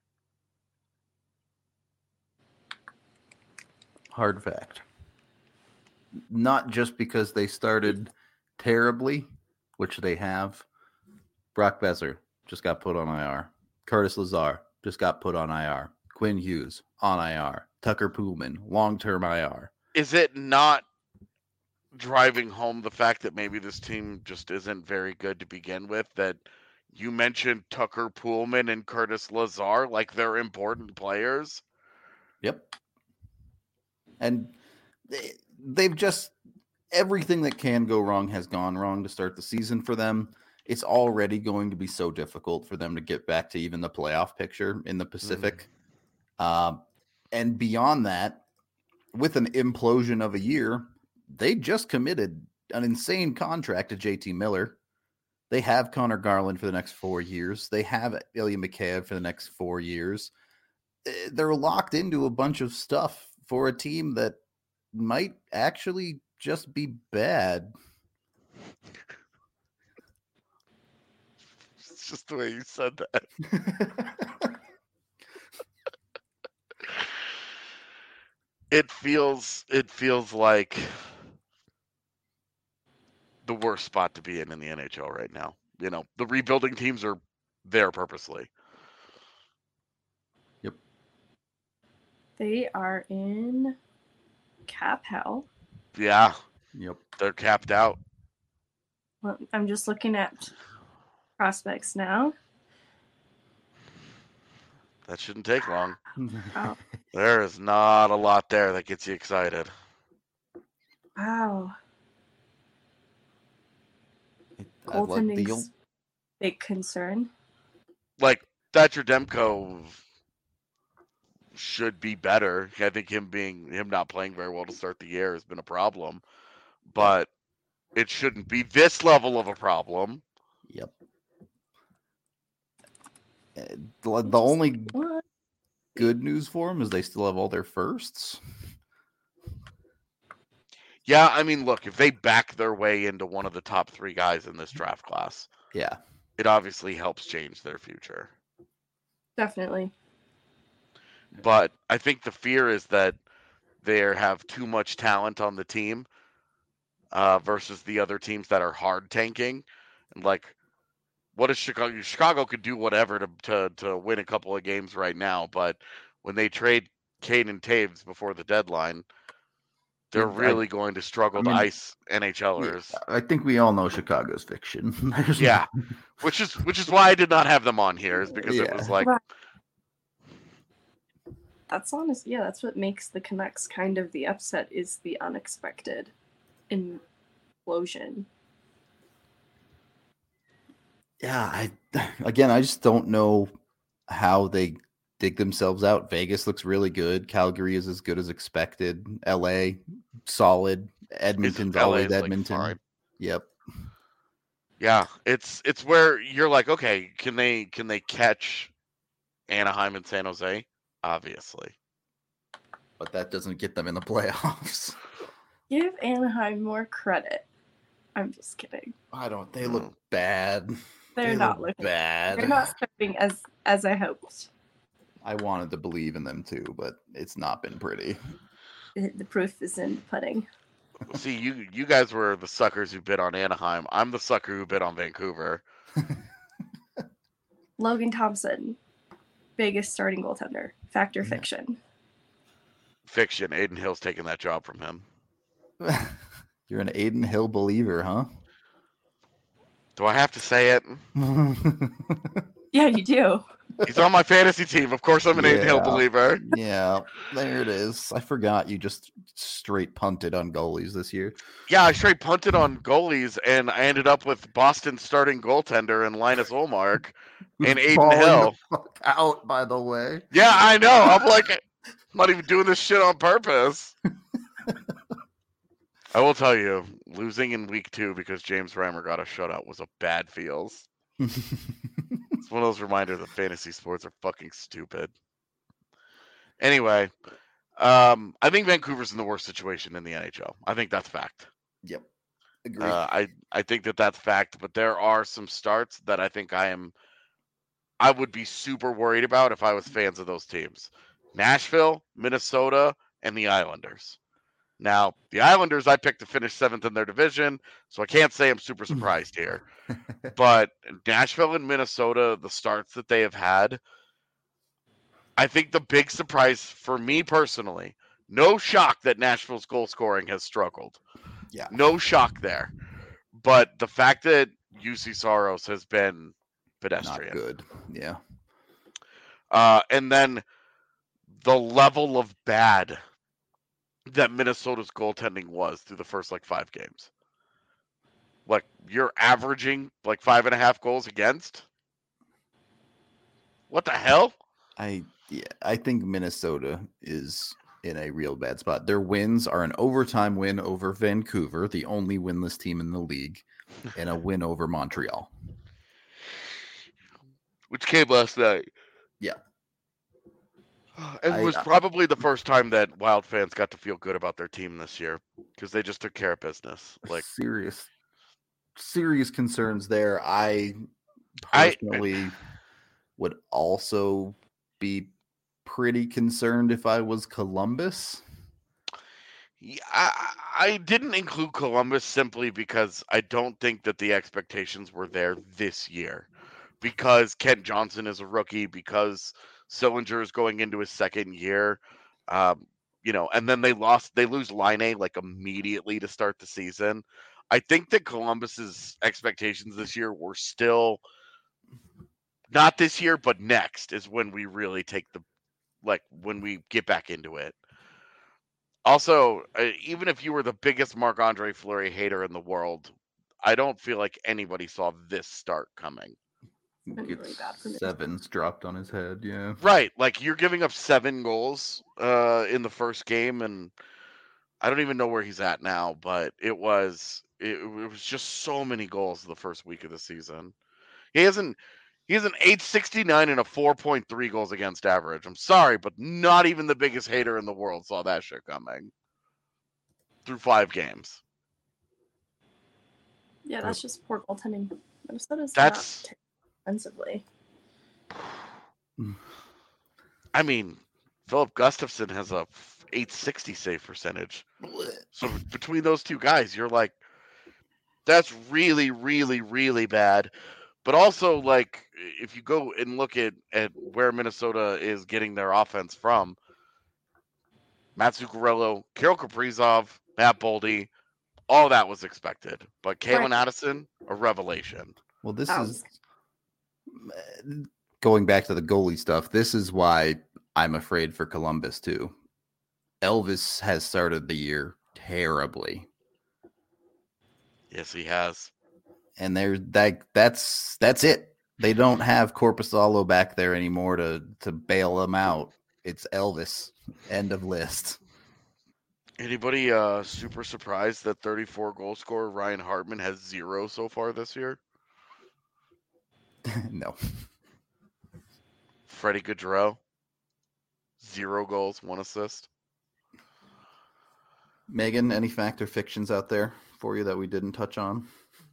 Hard fact. Not just because they started terribly, which they have. Brock Besser just got put on IR. Curtis Lazar just got put on IR. Quinn Hughes on IR. Tucker Poolman, long-term IR. Is it not driving home the fact that maybe this team just isn't very good to begin with, that you mentioned Tucker Poolman and Curtis Lazar like they're important players? Yep. And they've just, everything that can go wrong has gone wrong to start the season for them. It's already going to be so difficult for them to get back to even the playoff picture in the Pacific. And beyond that, with an implosion of a year, they just committed an insane contract to JT Miller. They have Connor Garland for the next 4 years. They have Ilya Mikheyev for the next 4 years. They're locked into a bunch of stuff for a team that might actually just be bad. It's just the way you said that. It feels like the worst spot to be in the NHL right now. The rebuilding teams are there purposely. Yep. They are in cap hell. Yeah. Yep. They're capped out. Well, I'm just looking at prospects now. That shouldn't take long. Oh, There is not a lot there that gets you excited. wow. I like the Goaltending's big concern. Like, Thatcher Demko should be better. I think him not playing very well to start the year has been a problem, but it shouldn't be this level of a problem. Yep. The only good news for them is they still have all their firsts. Yeah, I mean, look, if they back their way into one of the top 3 guys in this draft class, Yeah. it obviously helps change their future. Definitely. But I think the fear is that they have too much talent on the team versus the other teams that are hard tanking. And like, what is Chicago? Chicago could do whatever to win a couple of games right now, but when they trade Kane and Taves before the deadline, they're really going to struggle to ice NHLers. I think we all know Chicago's fiction. Yeah, which is why I did not have them on here, is because it was like. Right. That's honest. Yeah, that's what makes the Canucks kind of the upset, is the unexpected implosion. Yeah, I just don't know how they dig themselves out. Vegas looks really good. Calgary is as good as expected. LA, solid. Edmonton's always Edmonton. Like, yep. Yeah, it's where you're like, okay, can they catch Anaheim and San Jose? Obviously. But that doesn't get them in the playoffs. Give Anaheim more credit. I'm just kidding. I don't. They look bad. They're not looking bad. They're not starting as I hoped. I wanted to believe in them too, but it's not been pretty. The proof is in the pudding. See, you guys were the suckers who bid on Anaheim. I'm the sucker who bid on Vancouver. Logan Thompson, biggest starting goaltender. Fact or fiction? Fiction. Aiden Hill's taking that job from him. You're an Aiden Hill believer, huh? Do I have to say it? Yeah, you do. He's on my fantasy team. Of course I'm an Aiden Hill believer. Yeah, there it is. I forgot you just straight punted on goalies this year. Yeah, I straight punted on goalies, and I ended up with Boston's starting goaltender and Linus Ullmark and Aiden Hill. The fuck out, by the way. Yeah, I know. I'm like, I'm not even doing this shit on purpose. I will tell you, losing in week 2 because James Reimer got a shutout was a bad feels. It's one of those reminders that fantasy sports are fucking stupid. Anyway, I think Vancouver's in the worst situation in the NHL. I think that's fact. Yep. Agree. I think that's fact, but there are some starts that I think I would be super worried about if I was fans of those teams. Nashville, Minnesota, and the Islanders. Now, the Islanders, I picked to finish 7th in their division, so I can't say I'm super surprised here. But Nashville and Minnesota, the starts that they have had, I think the big surprise for me personally, no shock that Nashville's goal scoring has struggled. Yeah. No shock there. But the fact that UC Saros has been pedestrian. Not good. Yeah. And then the level of bad that Minnesota's goaltending was through the first 5 games. Like, you're averaging 5.5 goals against? What the hell? I think Minnesota is in a real bad spot. Their wins are an overtime win over Vancouver, the only winless team in the league, and a win over Montreal. Which came last night. Yeah. And it was probably the first time that Wild fans got to feel good about their team this year because they just took care of business. Serious concerns there. I personally would also be pretty concerned if I was Columbus. Yeah, I didn't include Columbus simply because I don't think that the expectations were there this year. Because Kent Johnson is a rookie, because Sillinger is going into his second year, and then they lose Laine immediately to start the season. I think that Columbus's expectations this year were still not this year, but next is when we really take when we get back into it. Also, even if you were the biggest Marc-Andre Fleury hater in the world, I don't feel like anybody saw this start coming. Really bad for me. 7's dropped on his head, yeah. Right, you're giving up 7 goals in the first game, and I don't even know where he's at now, but it was just so many goals the first week of the season. He has an 869 and a 4.3 goals against average. I'm sorry, but not even the biggest hater in the world saw that shit coming through 5 games. Yeah, that's just poor goaltending. Minnesota's That's not offensively. I mean, Philip Gustafson has a 860 save percentage. So between those two guys, you're like, that's really, really, really bad. But also, like, if you go and look at where Minnesota is getting their offense from, Matt Zuccarello, Kirill Kaprizov, Matt Boldy, all that was expected. But Kalen Right. Addison, a revelation. Well, this That is going back to the goalie stuff. This is why I'm afraid for Columbus too. Elvis has started the year terribly, Yes, he has. and that's it. They don't have Corpusalo back there anymore to bail them out. It's Elvis. End of list. Anybody super surprised that 34 goal scorer Ryan Hartman has 0 so far this year? No. Freddie Gaudreau, 0 goals, 1 assist. Megan, any fact or fictions out there for you that we didn't touch on?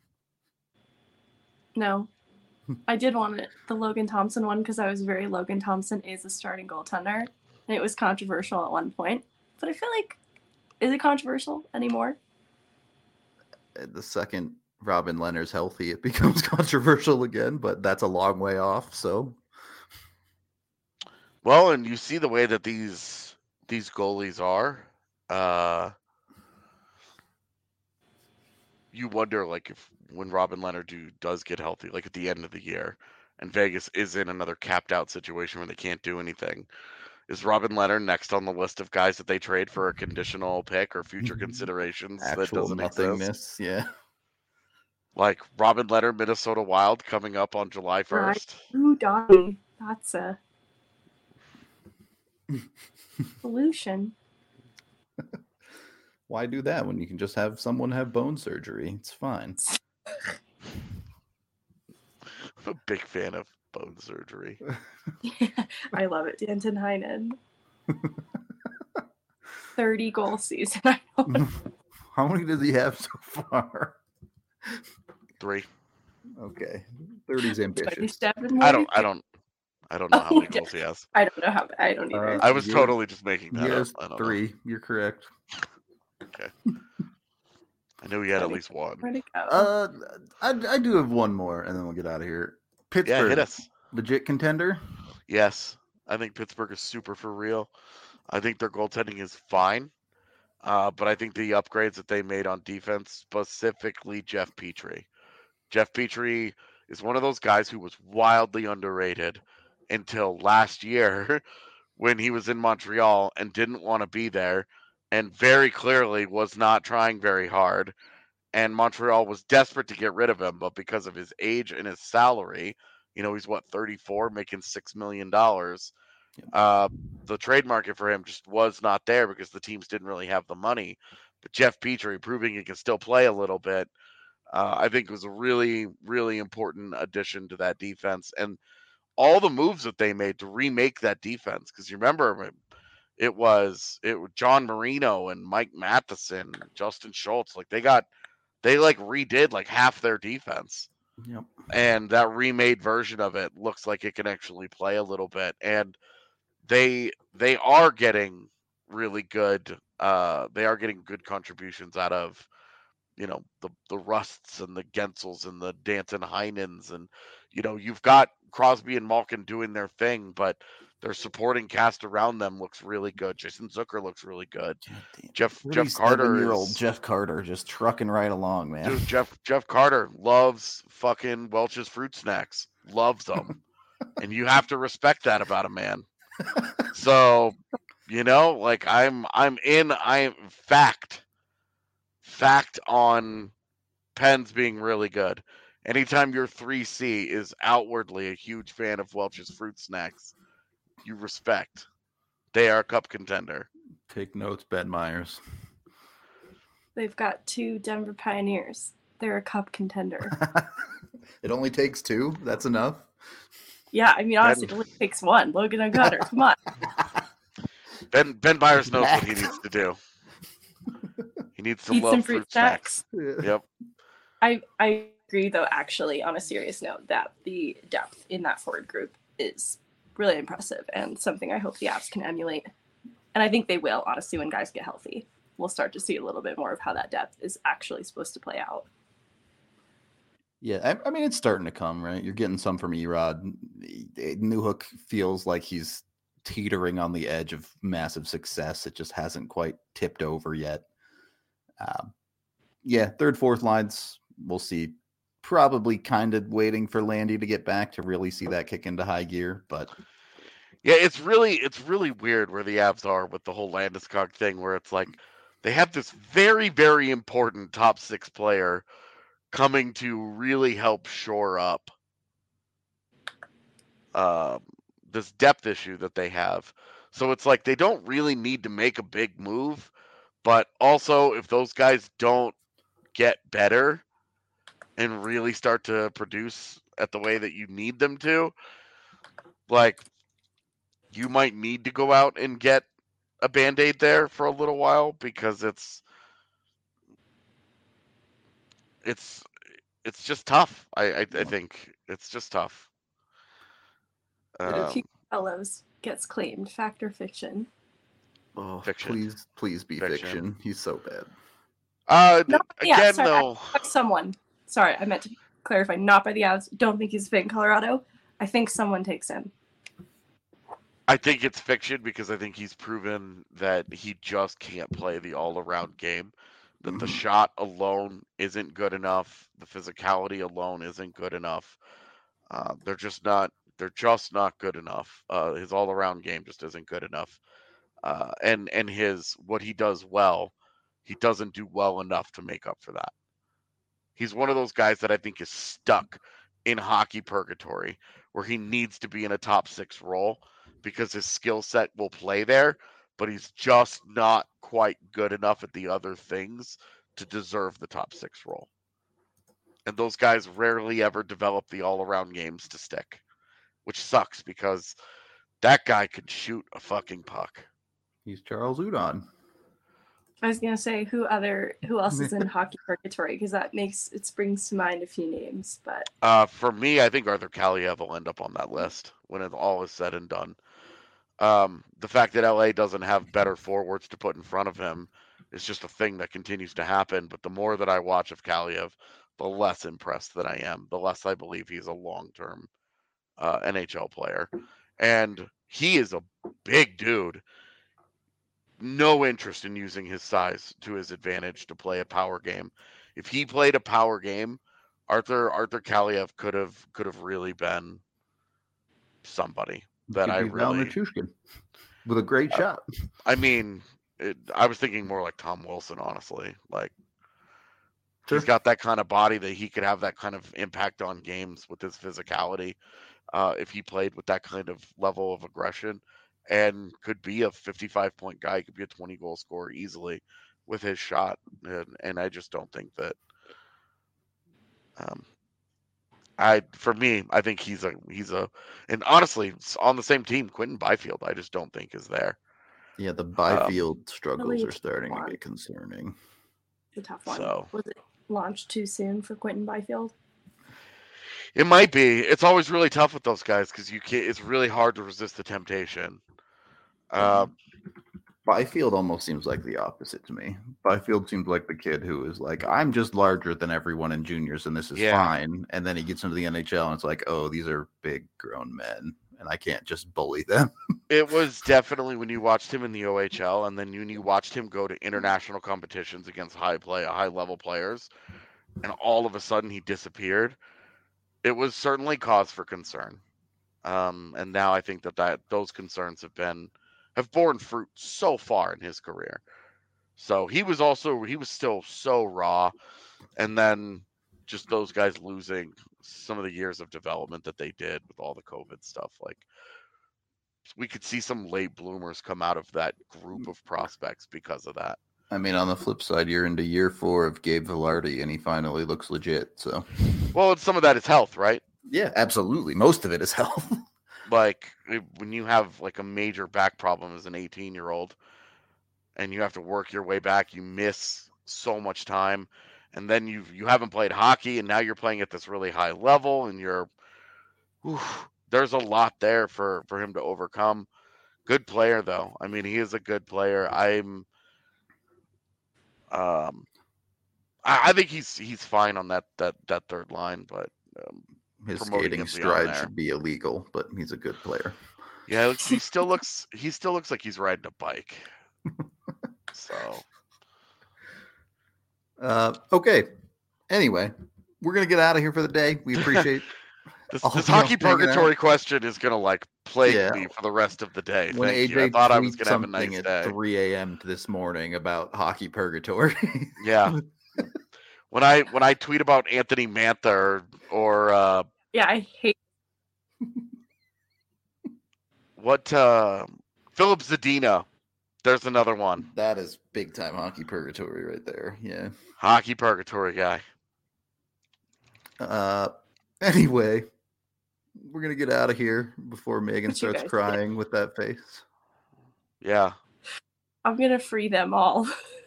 No. I did want the Logan Thompson one because I was very Logan Thompson is a starting goaltender. And it was controversial at one point. But I feel like, is it controversial anymore? The second Robin Leonard's healthy, it becomes controversial again, but that's a long way off. So, well, and you see the way that these goalies are. You wonder, like, if when Robin Leonard does get healthy, like at the end of the year, and Vegas is in another capped out situation where they can't do anything, is Robin Leonard next on the list of guys that they trade for a conditional pick or future considerations that actual doesn't nothingness. exist? Yeah. Like Robin Leonard, Minnesota Wild coming up on July 1st. Ooh, Donnie. That's a solution. Why do that when you can just have someone have bone surgery? It's fine. I'm a big fan of bone surgery. I love it. Danton Heinen. 30 goal season. I know. How many does he have so far? 3. Okay. 30's ambitious. 27 I don't know how many Okay. goals he has. I don't know how. I don't either. I was You're- totally just making He that up. has I don't 3. You're correct. know. I knew he had at least 1. Where'd it go? I do have one more, and then we'll get out of here. Pittsburgh, Yeah, hit us. legit contender. Yes, I think Pittsburgh is super for real. I think their goaltending is fine, but I think the upgrades that they made on defense, specifically Jeff Petrie. Jeff Petrie is one of those guys who was wildly underrated until last year when he was in Montreal and didn't want to be there and very clearly was not trying very hard. And Montreal was desperate to get rid of him, but because of his age and his salary, he's 34, making $6 million. The trade market for him just was not there because the teams didn't really have the money. But Jeff Petrie proving he can still play a little bit, I think was a really, really important addition to that defense. And all the moves that they made to remake that defense, because you remember it was John Marino and Mike Matheson, Justin Schultz, like they redid like half their defense. Yep. And that remade version of it looks like it can actually play a little bit. And they are getting really good. They are getting good contributions out of, the Rusts and the Gensels and the Danton Heinens. And, you've got Crosby and Malkin doing their thing, but their supporting cast around them looks really good. Jason Zucker looks really good. Jeff Carter year-old Jeff Carter just trucking right along, man. Dude, Jeff Carter loves fucking Welch's fruit snacks. Loves them. And you have to respect that about a man. So, like I'm fact on Pens being really good. Anytime your 3C is outwardly a huge fan of Welch's fruit snacks, you respect. They are a cup contender. Take notes, Ben Myers. They've got 2 Denver Pioneers. They're a cup contender. It only takes 2. That's enough. Yeah, I mean, honestly, it only takes 1. Logan and Cutter, come on. Ben Myers knows what he needs to do. He needs to Eat love some fruit snacks. Yep. I agree, though, actually, on a serious note, that the depth in that forward group is really impressive and something I hope the Avs can emulate. And I think they will, honestly, when guys get healthy. We'll start to see a little bit more of how that depth is actually supposed to play out. Yeah, I mean, it's starting to come, right? You're getting some from Erod. Newhook feels like he's teetering on the edge of massive success. It just hasn't quite tipped over yet. Yeah, third, fourth lines, we'll see. Probably kind of waiting for Landy to get back to really see that kick into high gear, but Yeah, it's really weird where the Avs are with the whole Landeskog thing, where it's like they have this very, very important top 6 player coming to really help shore up this depth issue that they have. So it's like they don't really need to make a big move, but also if those guys don't get better and really start to produce at the way that you need them to, like you might need to go out and get a Band-Aid there for a little while because it's just tough. I think it's just tough. Hugh Fellows gets claimed. Fact or fiction? oh, Fiction. please be fiction. He's so bad. Again, sorry, though, someone. Sorry, I meant to clarify. Not by the Avs. Don't think he's fit in Colorado. I think someone takes him. I think it's fiction because I think he's proven that he just can't play the all-around game. That the shot alone isn't good enough. The physicality alone isn't good enough. They're just not good enough. His all-around game just isn't good enough. And his what he does well, he doesn't do well enough to make up for that. He's one of those guys that I think is stuck in hockey purgatory where he needs to be in a top 6 role because his skill set will play there, but he's just not quite good enough at the other things to deserve the top 6 role. And those guys rarely ever develop the all-around games to stick, which sucks because that guy could shoot a fucking puck. He's Charles Udon. I was gonna say who else is in hockey purgatory, because that springs to mind a few names, but for me, I think Arthur Kaliev will end up on that list when it all is said and done. The fact that LA doesn't have better forwards to put in front of him is just a thing that continues to happen. But the more that I watch of Kaliev, the less impressed that I am, the less I believe he's a long-term NHL player. And he is a big dude. No interest in using his size to his advantage to play a power game. If he played a power game, Arthur Kaliev could have really been somebody that I really with a great shot. I mean, I was thinking more like Tom Wilson, honestly. Like he's got that kind of body that he could have that kind of impact on games with his physicality. If he played with that kind of level of aggression, and could be a 55-point guy, could be a 20-goal scorer easily with his shot. And I just don't think that. For me, I think he's a, and honestly, on the same team, Quentin Byfield, I just don't think is there. Yeah, the Byfield struggles are starting to get concerning. It's a tough one. So, was it launched too soon for Quentin Byfield? It might be. It's always really tough with those guys because it's really hard to resist the temptation. Byfield almost seems like the opposite to me. Byfield seems like the kid who is like, I'm just larger than everyone in juniors, and this is fine. And then he gets into the NHL, and it's like, oh, these are big grown men, and I can't just bully them. It was definitely when you watched him in the OHL, and then when you watched him go to international competitions against high-level players, and all of a sudden he disappeared. It was certainly cause for concern. And now I think that those concerns have borne fruit so far in his career. So he was still so raw, and then just those guys losing some of the years of development that they did with all the COVID stuff. Like we could see some late bloomers come out of that group of prospects because of that. I mean, on the flip side, you're into year 4 of Gabe Vilardi, and he finally looks legit. So, well, some of that is health, right? Yeah, absolutely. Most of it is health. Like when you have like a major back problem as an 18-year-old, and you have to work your way back, you miss so much time, and then you haven't played hockey, and now you're playing at this really high level, and there's a lot there for him to overcome. Good player though. I mean, he is a good player. I I think he's fine on that third line, but His promoting skating him beyond stride there. should be illegal, but he's a good player. Yeah, he still looks like he's riding a bike. So okay. Anyway, we're gonna get out of here for the day. We appreciate this all hockey y'all hanging purgatory out. question is gonna like plague Yeah. me for the rest of the day. When Thank AJ you. I thought I was tweets gonna have a something nice at day. 3 a.m. this morning about hockey purgatory. Yeah. When I tweet about Anthony Mantha or Yeah, I hate. what Philip Zadina, there's another one. That is big time hockey purgatory right there. Yeah. Hockey purgatory guy. Anyway, we're gonna get out of here before Megan What you starts guys crying with that face. Yeah. I'm gonna free them all.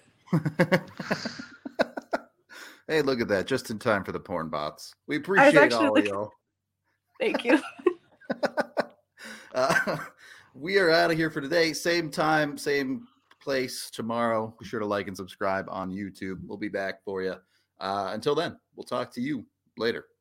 Hey, look at that! Just in time for the porn bots. We appreciate actually all of y'all. Thank you. We are out of here for today. Same time, same place tomorrow. Be sure to like and subscribe on YouTube. We'll be back for you. Until then, we'll talk to you later.